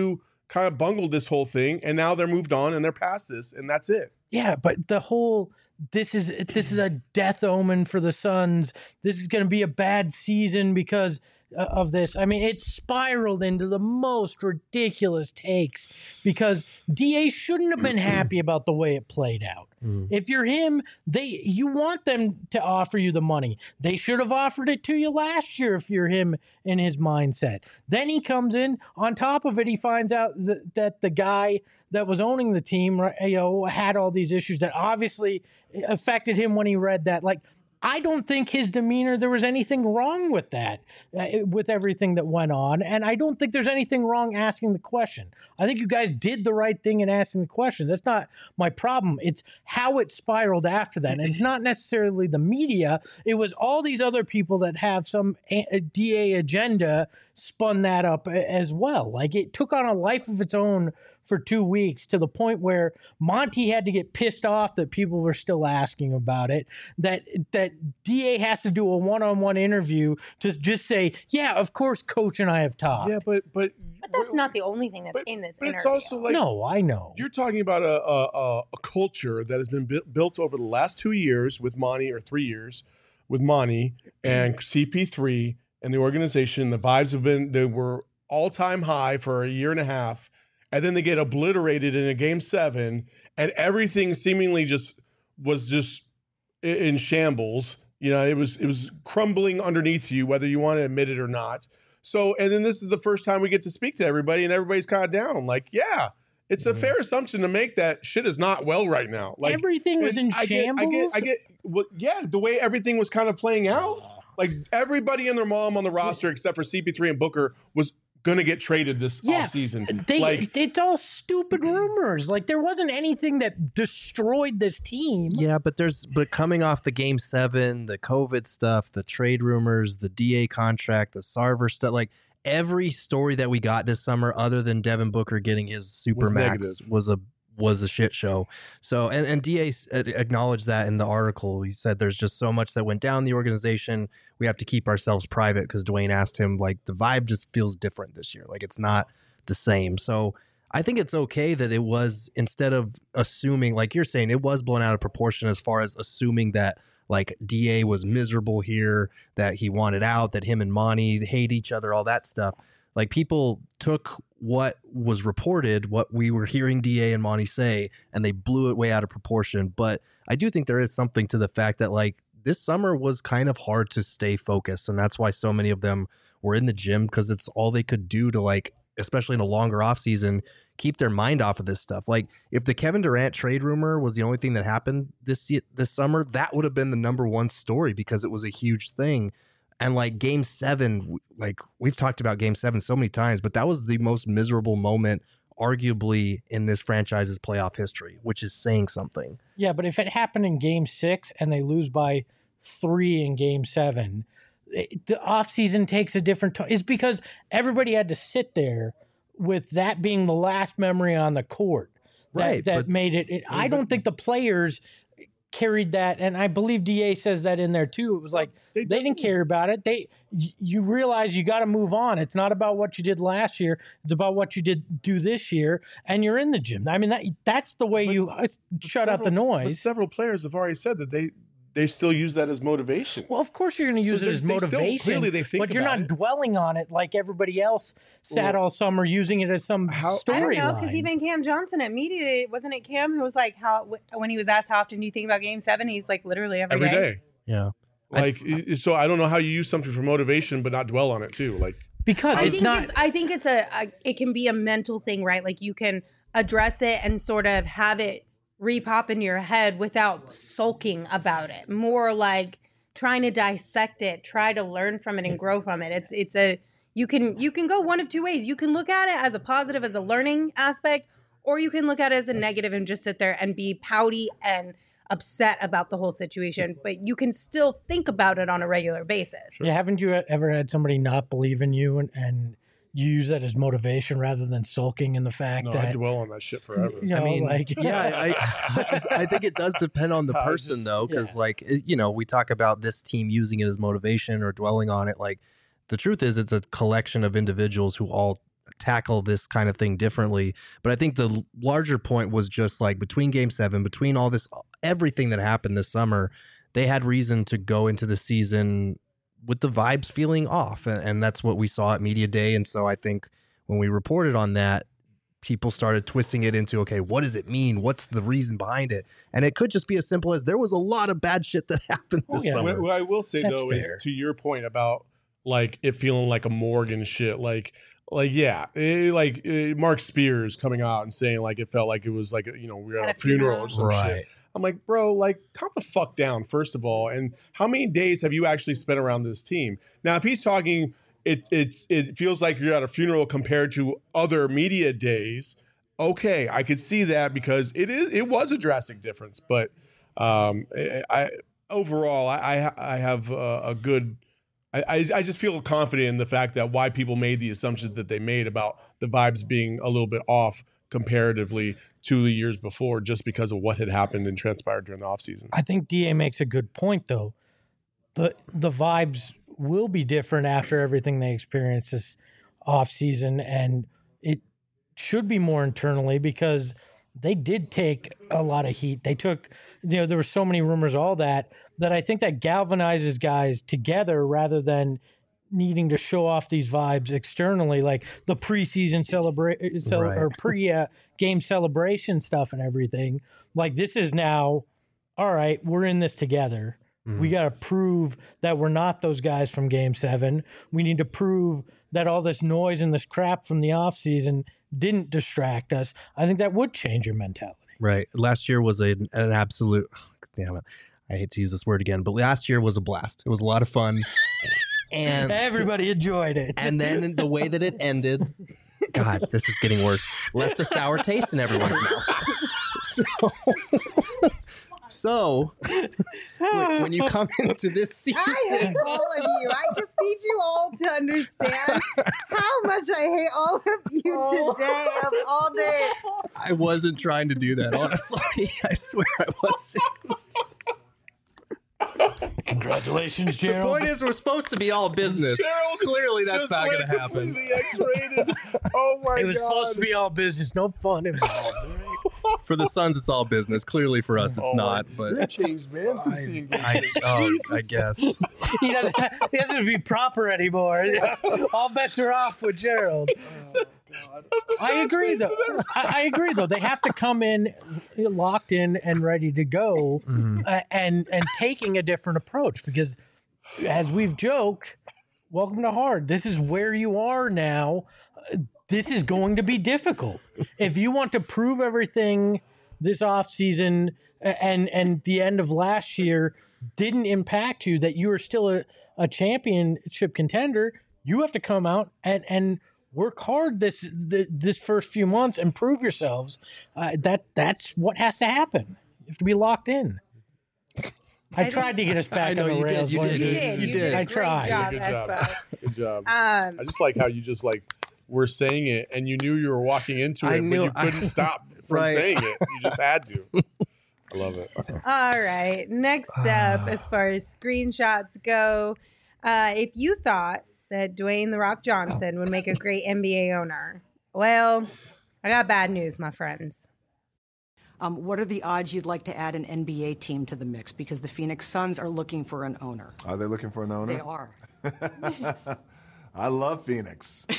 kind of bungled this whole thing, and now they're moved on and they're past this, and that's it. Yeah, but the whole this is this is a death omen for the Suns. This is going to be a bad season because uh, of this. I mean, it spiraled into the most ridiculous takes because D A shouldn't have been happy about the way it played out. Mm. If you're him, they you want them to offer you the money. They should have offered it to you last year if you're him in his mindset. Then he comes in, on top of it, he finds out that, that the guy that was owning the team, you know, had all these issues that obviously affected him when he read that. Like, I don't think his demeanor, there was anything wrong with that, uh, with everything that went on. And I don't think there's anything wrong asking the question. I think you guys did the right thing in asking the question. That's not my problem. It's how it spiraled after that. And it's not necessarily the media. It was all these other people that have some a- D A agenda spun that up as well. Like, it took on a life of its own for two weeks to the point where Monty had to get pissed off that people were still asking about it, that that D A has to do a one-on-one interview to just say, yeah, of course, Coach and I have talked. Yeah, but but But that's not the only thing that's but, in this but interview. it's also like, no, I know. you're talking about a a, a culture that has been bu- built over the last two years with Monty, or three years with Monty and C P three and the organization. The vibes have been, they were all-time high for a year and a half. And then they get obliterated in a game seven, and everything seemingly just was just in shambles. You know, it was it was crumbling underneath you, whether you want to admit it or not. So, and then this is the first time we get to speak to everybody, and everybody's kind of down. Like, yeah, it's a fair assumption to make that shit is not well right now. Like, everything was in I shambles. Get, I get, I get, well, yeah, the way everything was kind of playing out. Like, everybody and their mom on the roster, except for C P three and Booker, was going to get traded this Yeah, offseason. They, Like, it's all stupid rumors. Like, there wasn't anything that destroyed this team. Yeah, but there's but coming off the game seven, the COVID stuff, the trade rumors, the D A contract, the Sarver stuff, like every story that we got this summer, other than Devin Booker getting his super Was max, negative. was a was a shit show. So and and D A acknowledged that in the article. He said there's just so much that went down in the organization. We have to keep ourselves private, because Dwayne asked him, like, the vibe just feels different this year. Like, it's not the same. So I think it's okay that it was, instead of assuming, like you're saying, it was blown out of proportion as far as assuming that, like, D A was miserable here, that he wanted out, that him and Monty hate each other, all that stuff. Like, people took what was reported, what we were hearing D A and Monty say, and they blew it way out of proportion. But I do think there is something to the fact that, like, this summer was kind of hard to stay focused. And that's why so many of them were in the gym, because it's all they could do to, like, especially in a longer off season, keep their mind off of this stuff. Like, if the Kevin Durant trade rumor was the only thing that happened this this summer, that would have been the number one story, because it was a huge thing. And like game seven, like we've talked about game seven so many times, but that was the most miserable moment arguably in this franchise's playoff history, which is saying something. Yeah, but if it happened in game six and they lose by three in game seven, it, the offseason takes a different tone. It's because everybody had to sit there with that being the last memory on the court that, Right, that but- made it, it. I don't think the players carried that, and I believe D A says that in there too. It was like They they, didn't definitely- care about it. They, y- you realize you got to move on. It's not about what you did last year. It's about what you did do this year, and you're in the gym. I mean, that that's the way But- you uh, shut out the several- But noise. several players have already said that they they still use that as motivation. Well, of course you're going to use So it they- as they still- motivation. clearly they think but you're about not it. dwelling on it like everybody else sat Well, all summer using it as some how- I don't know, storyline. because even Cam Johnson at media Day, wasn't it Cam who was like, how when he was asked how often do you think about Game Seven, he's like literally every, Every day. Yeah. Like, i- so I don't know how you use something for motivation but not dwell on it too. Like, because I it's think not. it's I think it's a, a it can be a mental thing, right? Like you can address it and sort of have it repop in your head without sulking about it. More like trying to dissect it, try to learn from it and grow from it. It's it's a you can you can go one of two ways. You can look at it as a positive, as a learning aspect, or you can look at it as a negative and just sit there and be pouty and upset about the whole situation. But you can still think about it on a regular basis. Yeah, haven't you ever had somebody not believe in you and, and you use that as motivation rather than sulking in the fact no, I that dwell on that shit forever. you know, I mean, like yeah, I, I, I think it does depend on the I person just- though, because yeah. like it, you know, we talk about this team using it as motivation or dwelling on it. Like the truth is, it's a collection of individuals who all tackle this kind of thing differently. But I think the l- larger point was just like between game seven, between all this, everything that happened this summer, they had reason to go into the season with the vibes feeling off. And, and that's what we saw at Media Day. And so I think when we reported on that, people started twisting it into, okay, what does it mean? What's the reason behind it? And it could just be as simple as there was a lot of bad shit that happened this Oh, yeah. summer. What, what I will say That's though fair. is to your point about like it feeling like a morgue and shit. Like, like yeah, eh, like eh, Mark Spears coming out and saying like it felt like it was like you know we were at At a a funeral or funeral. some Right. shit. I'm like, bro, like calm the fuck down first of all. And how many days have you actually spent around this team? Now, if he's talking, it it's it feels like you're at a funeral compared to other media days. Okay, I could see that because it is it was a drastic difference, but um, I, I overall I I, I have a, a good. I, I I just feel confident in the fact that why people made the assumption that they made about the vibes being a little bit off comparatively to the years before, just because of what had happened and transpired during the offseason. I think D A makes a good point, though. The the vibes will be different after everything they experienced this offseason, and it should be more internally because they did take a lot of heat. They took, you know, there were so many rumors, all that, that I think that galvanizes guys together rather than needing to show off these vibes externally, like the preseason celebrate so, Right. or pre uh, game celebration stuff and everything. Like this is now, all right, we're in this together. We got to prove that we're not those guys from game seven. We need to prove that all this noise and this crap from the offseason didn't distract us. I think that would change your mentality. Right. Last year was a, an absolute, damn it. I hate to use this word again, but last year was a blast. It was a lot of fun. And Everybody enjoyed it. and then the way that it ended, God, this is getting worse. Left a sour taste in everyone's mouth. So, so when, when you come into this season, I hate all of you. I just need you all to understand how much I hate all of you today of all days. I wasn't trying to do that. Honestly, I swear I wasn't. Congratulations, The Gerald. point is, we're supposed to be all business. Gerald Clearly, that's just not went going to happen. completely X-rated. Oh my it was god! supposed to be all business, no fun involved. For the Suns, it's all business. Clearly, for us, it's Oh my- not. But That changed, man, since the engagement. I, oh, I Jesus. guess. he doesn't. He doesn't be proper anymore. All bets are off with Gerald. I agree, though. I, I agree, though. They have to come in locked in and ready to go, Mhm. uh, and and taking a different approach because, as we've joked, welcome to hard. This is where you are now. Uh, This is going to be difficult if you want to prove everything this offseason and and the end of last year didn't impact you, that you are still a, a championship contender. You have to come out and and work hard this the, this first few months and prove yourselves. Uh, that that's what has to happen. You have to be locked in. I, I tried to get us I back know on the you did, rails. you Lindsay. You did. did. You You did. did. a I great tried. job, Good job. Espo. Good job. Um, I just like how you just like were saying it and you knew you were walking into I it, knew- but you couldn't I- stop from Right. saying it. You just had to. I love it. all right. Next up, as far as screenshots go, uh, if you thought that Dwayne The Rock Johnson would make a great N B A owner, well, I got bad news, my friends. Um, what are the odds you'd like to add an N B A team to the mix? Because the Phoenix Suns are looking for an owner. Are they looking for an owner? They are. I love Phoenix.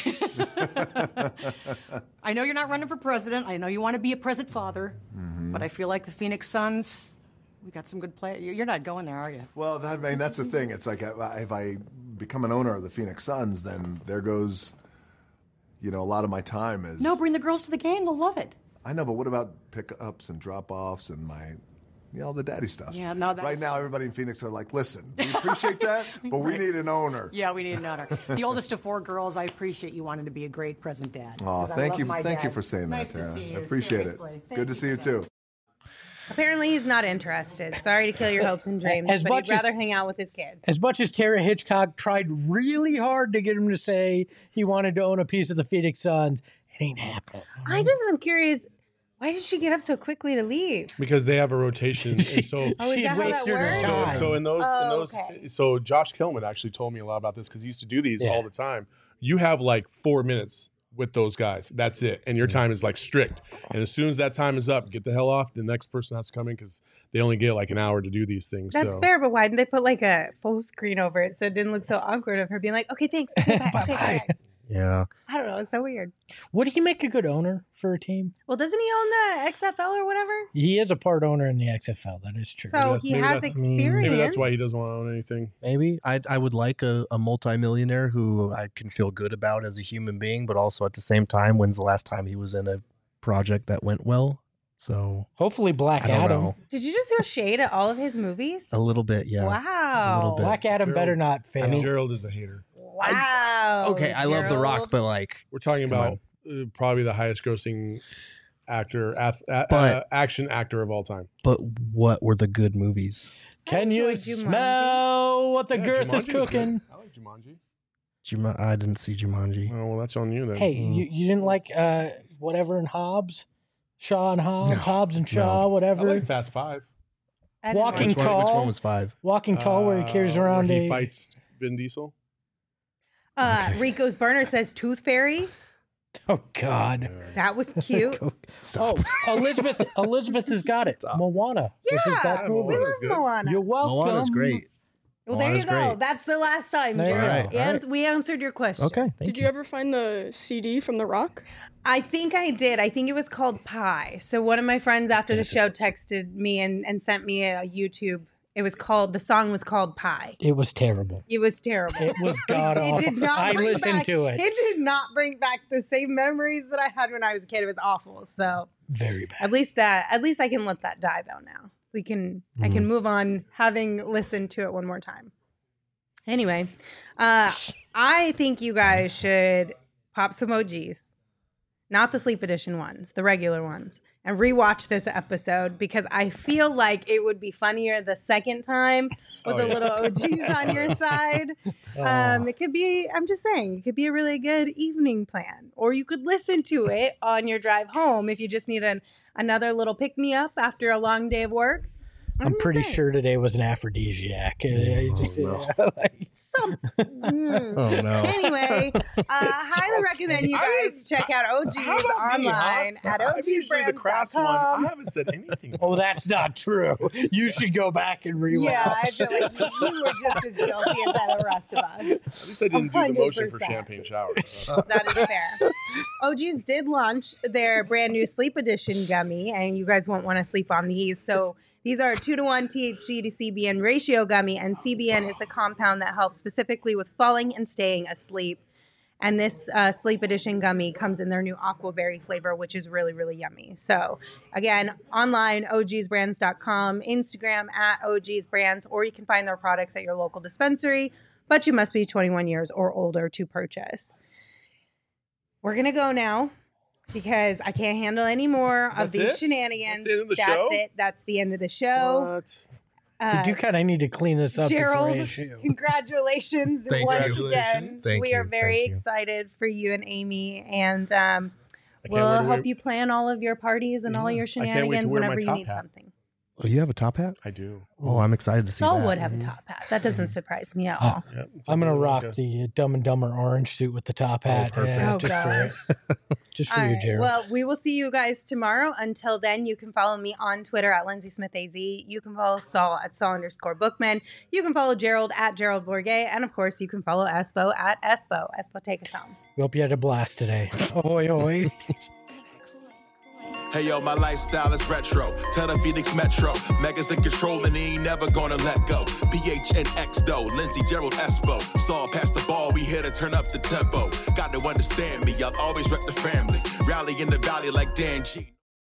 I know you're not running for president. I know you want to be a present father. But I feel like the Phoenix Suns, we got some good play. You're not going there, are you? Well, that, I mean, that's the thing. It's like uh, if I become an owner of the Phoenix Suns, then there goes, you know, a lot of my time is. No, bring the girls to the game. They'll love it. I know, but what about pickups and drop-offs and my, you know, the daddy stuff? Yeah, no, that's- Right now, everybody in Phoenix are like, listen, we appreciate that, but we need an owner. Yeah, we need an owner. The oldest of four girls, I appreciate you wanting to be a great present dad. Aw, 'Cause I thank love you, my thank you dad. for saying Nice that, to Tara. see you, I appreciate seriously. it. Thank Good to you see you for too. that. Apparently, he's not interested. Sorry to kill your hopes and dreams, As but much he'd as- rather hang out with his kids. As much as Tara Hitchcock tried really hard to get him to say he wanted to own a piece of the Phoenix Suns, it ain't happening. I just am curious, why did she get up so quickly to leave? Because they have a rotation. And so Oh, is She that how that wasted her works? So, time. so in those, Oh, in those, okay. so Josh Kellman actually told me a lot about this because he used to do these Yeah. all the time. You have like four minutes with those guys. That's it. And your time is like strict. And as soon as that time is up, get the hell off. The next person has to come in because they only get like an hour to do these things. That's so. fair, but why didn't they put like a full screen over it so it didn't look so awkward of her being like, okay, thanks. Okay, bye. Okay, bye. Yeah. I don't know. It's so weird. Would he make a good owner for a team? Well, doesn't he own the X F L or whatever? He is a part owner in the X F L. That is true. So he maybe has that's- experience. Maybe that's why he doesn't want to own anything. Maybe I I would like a, a multimillionaire who I can feel good about as a human being, but also at the same time, when's the last time he was in a project that went well? So hopefully Black I don't Adam. know. Did you just throw shade at all of his movies? A little bit, yeah. Wow. A little bit. Black Adam Gerald- better not fail. I mean- Gerald is a hater. Wow. Okay, I love The Rock, Gerald. but like, We're talking Come about uh, probably the highest grossing actor, ath- a- But- uh, action actor of all time. but what were the good movies? Can you enjoyed Jumanji. smell what the Yeah, girth Jumanji was is cooking? good. I like Jumanji. Juma- I didn't see Jumanji. Oh, well, that's on you then. Hey, Mm. you, you didn't like uh, whatever in Hobbs? Shaw and Hobbs, No, Hobbs and Shaw, no. I whatever. like Fast Five. I didn't Walking Which watch one, which Tall. one was five? Walking Tall, where he carries Uh, around where he a. fights Vin Diesel. Uh, Okay. Rico's burner says Tooth Fairy. Oh God. That was cute. Stop. Oh, Elizabeth. Elizabeth has got it. Stop. Moana. This is Yeah, best Yeah, we movie. love Moana's good. Moana. You're welcome. Moana's great. Well, there you Moana's go. great. That's the last time, There you Jared. go. And All right. we answered your question. Okay, thank Did you. you ever find the C D from The Rock? I think I did. I think it was called Pie. So one of my friends after the Yes. show texted me and, and sent me a YouTube. It was called, the song was called Pie. It was terrible. It was terrible. It was god It awful. did not I bring listened back, to it. It did not bring back the same memories that I had when I was a kid. It was awful. So Very bad. at least that, at least I can let that die though now. We can, I can move on having listened to it one more time. Anyway, uh, I think you guys should pop some O Gs, not the sleep edition ones, the regular ones, and rewatch this episode because I feel like it would be funnier the second time with Oh, a yeah. little O Gs on your side. Um, it could be, I'm just saying, it could be a really good evening plan. Or you could listen to it on your drive home if you just need an, another little pick me up after a long day of work. I'm just pretty saying. sure today was an aphrodisiac. Uh, you just, uh, like- Some, mm. Oh no. Anyway, uh, highly recommend you I guys check out O Gs How about me, huh? online at I'm usually the crass one. I O Gs brands dot com. haven't said anything. oh, that's not true. You should go back and rewatch. Yeah, I feel like you, you were just as guilty as the rest of us. At least I didn't do the motion for one hundred percent. champagne shower. That is fair. O Gs did launch their brand new sleep edition gummy, and you guys won't want to sleep on these. So these are a two to one T H C to C B N ratio gummy, and C B N is the compound that helps specifically with falling and staying asleep. And this uh, sleep edition gummy comes in their new aqua berry flavor, which is really, really yummy. So again, online, O Gs brands dot com, Instagram at O Gs brands, or you can find their products at your local dispensary, but you must be twenty-one years or older to purchase. We're going to go now because I can't handle any more of That's these it? shenanigans. That's the end of the That's show? it. That's the end of the show. What? Uh, You do kind of need to clean this up Gerald, before issue. congratulations Thank once you. again. Thank we you, are very thank you. excited for you and Amy, and um, I can't we'll wait to help wear- you plan all of your parties and all Yeah. your I can't wait to shenanigans wear my whenever you top need hat. something. Oh, you have a top hat? I do. Oh, I'm excited to see Saul that. would have a top hat. That doesn't surprise me at all. Yep, it's I'm like gonna a- rock like a- the uh, Dumb and Dumber orange suit with the top hat. perfect. yeah, Oh, just gosh. for, just for All you, right. Gerald. Well, we will see you guys tomorrow. Until then, you can follow me on Twitter at Lindsay Smith A Z. You can follow Saul at Saul underscore Bookman. You can follow Gerald at Gerald Bourget. And of course, you can follow Espo at Espo. Espo, take us home. we hope you had a blast today. Oi, oi. Hey yo, my lifestyle is retro. Tell the Phoenix Metro. Megas in control and he ain't never gonna let go. P H N X though, Lindsay Gerald Espo. Saw past the ball, we here to turn up the tempo. Got to understand me, I'll always rep the family. Rally in the valley like Dan G.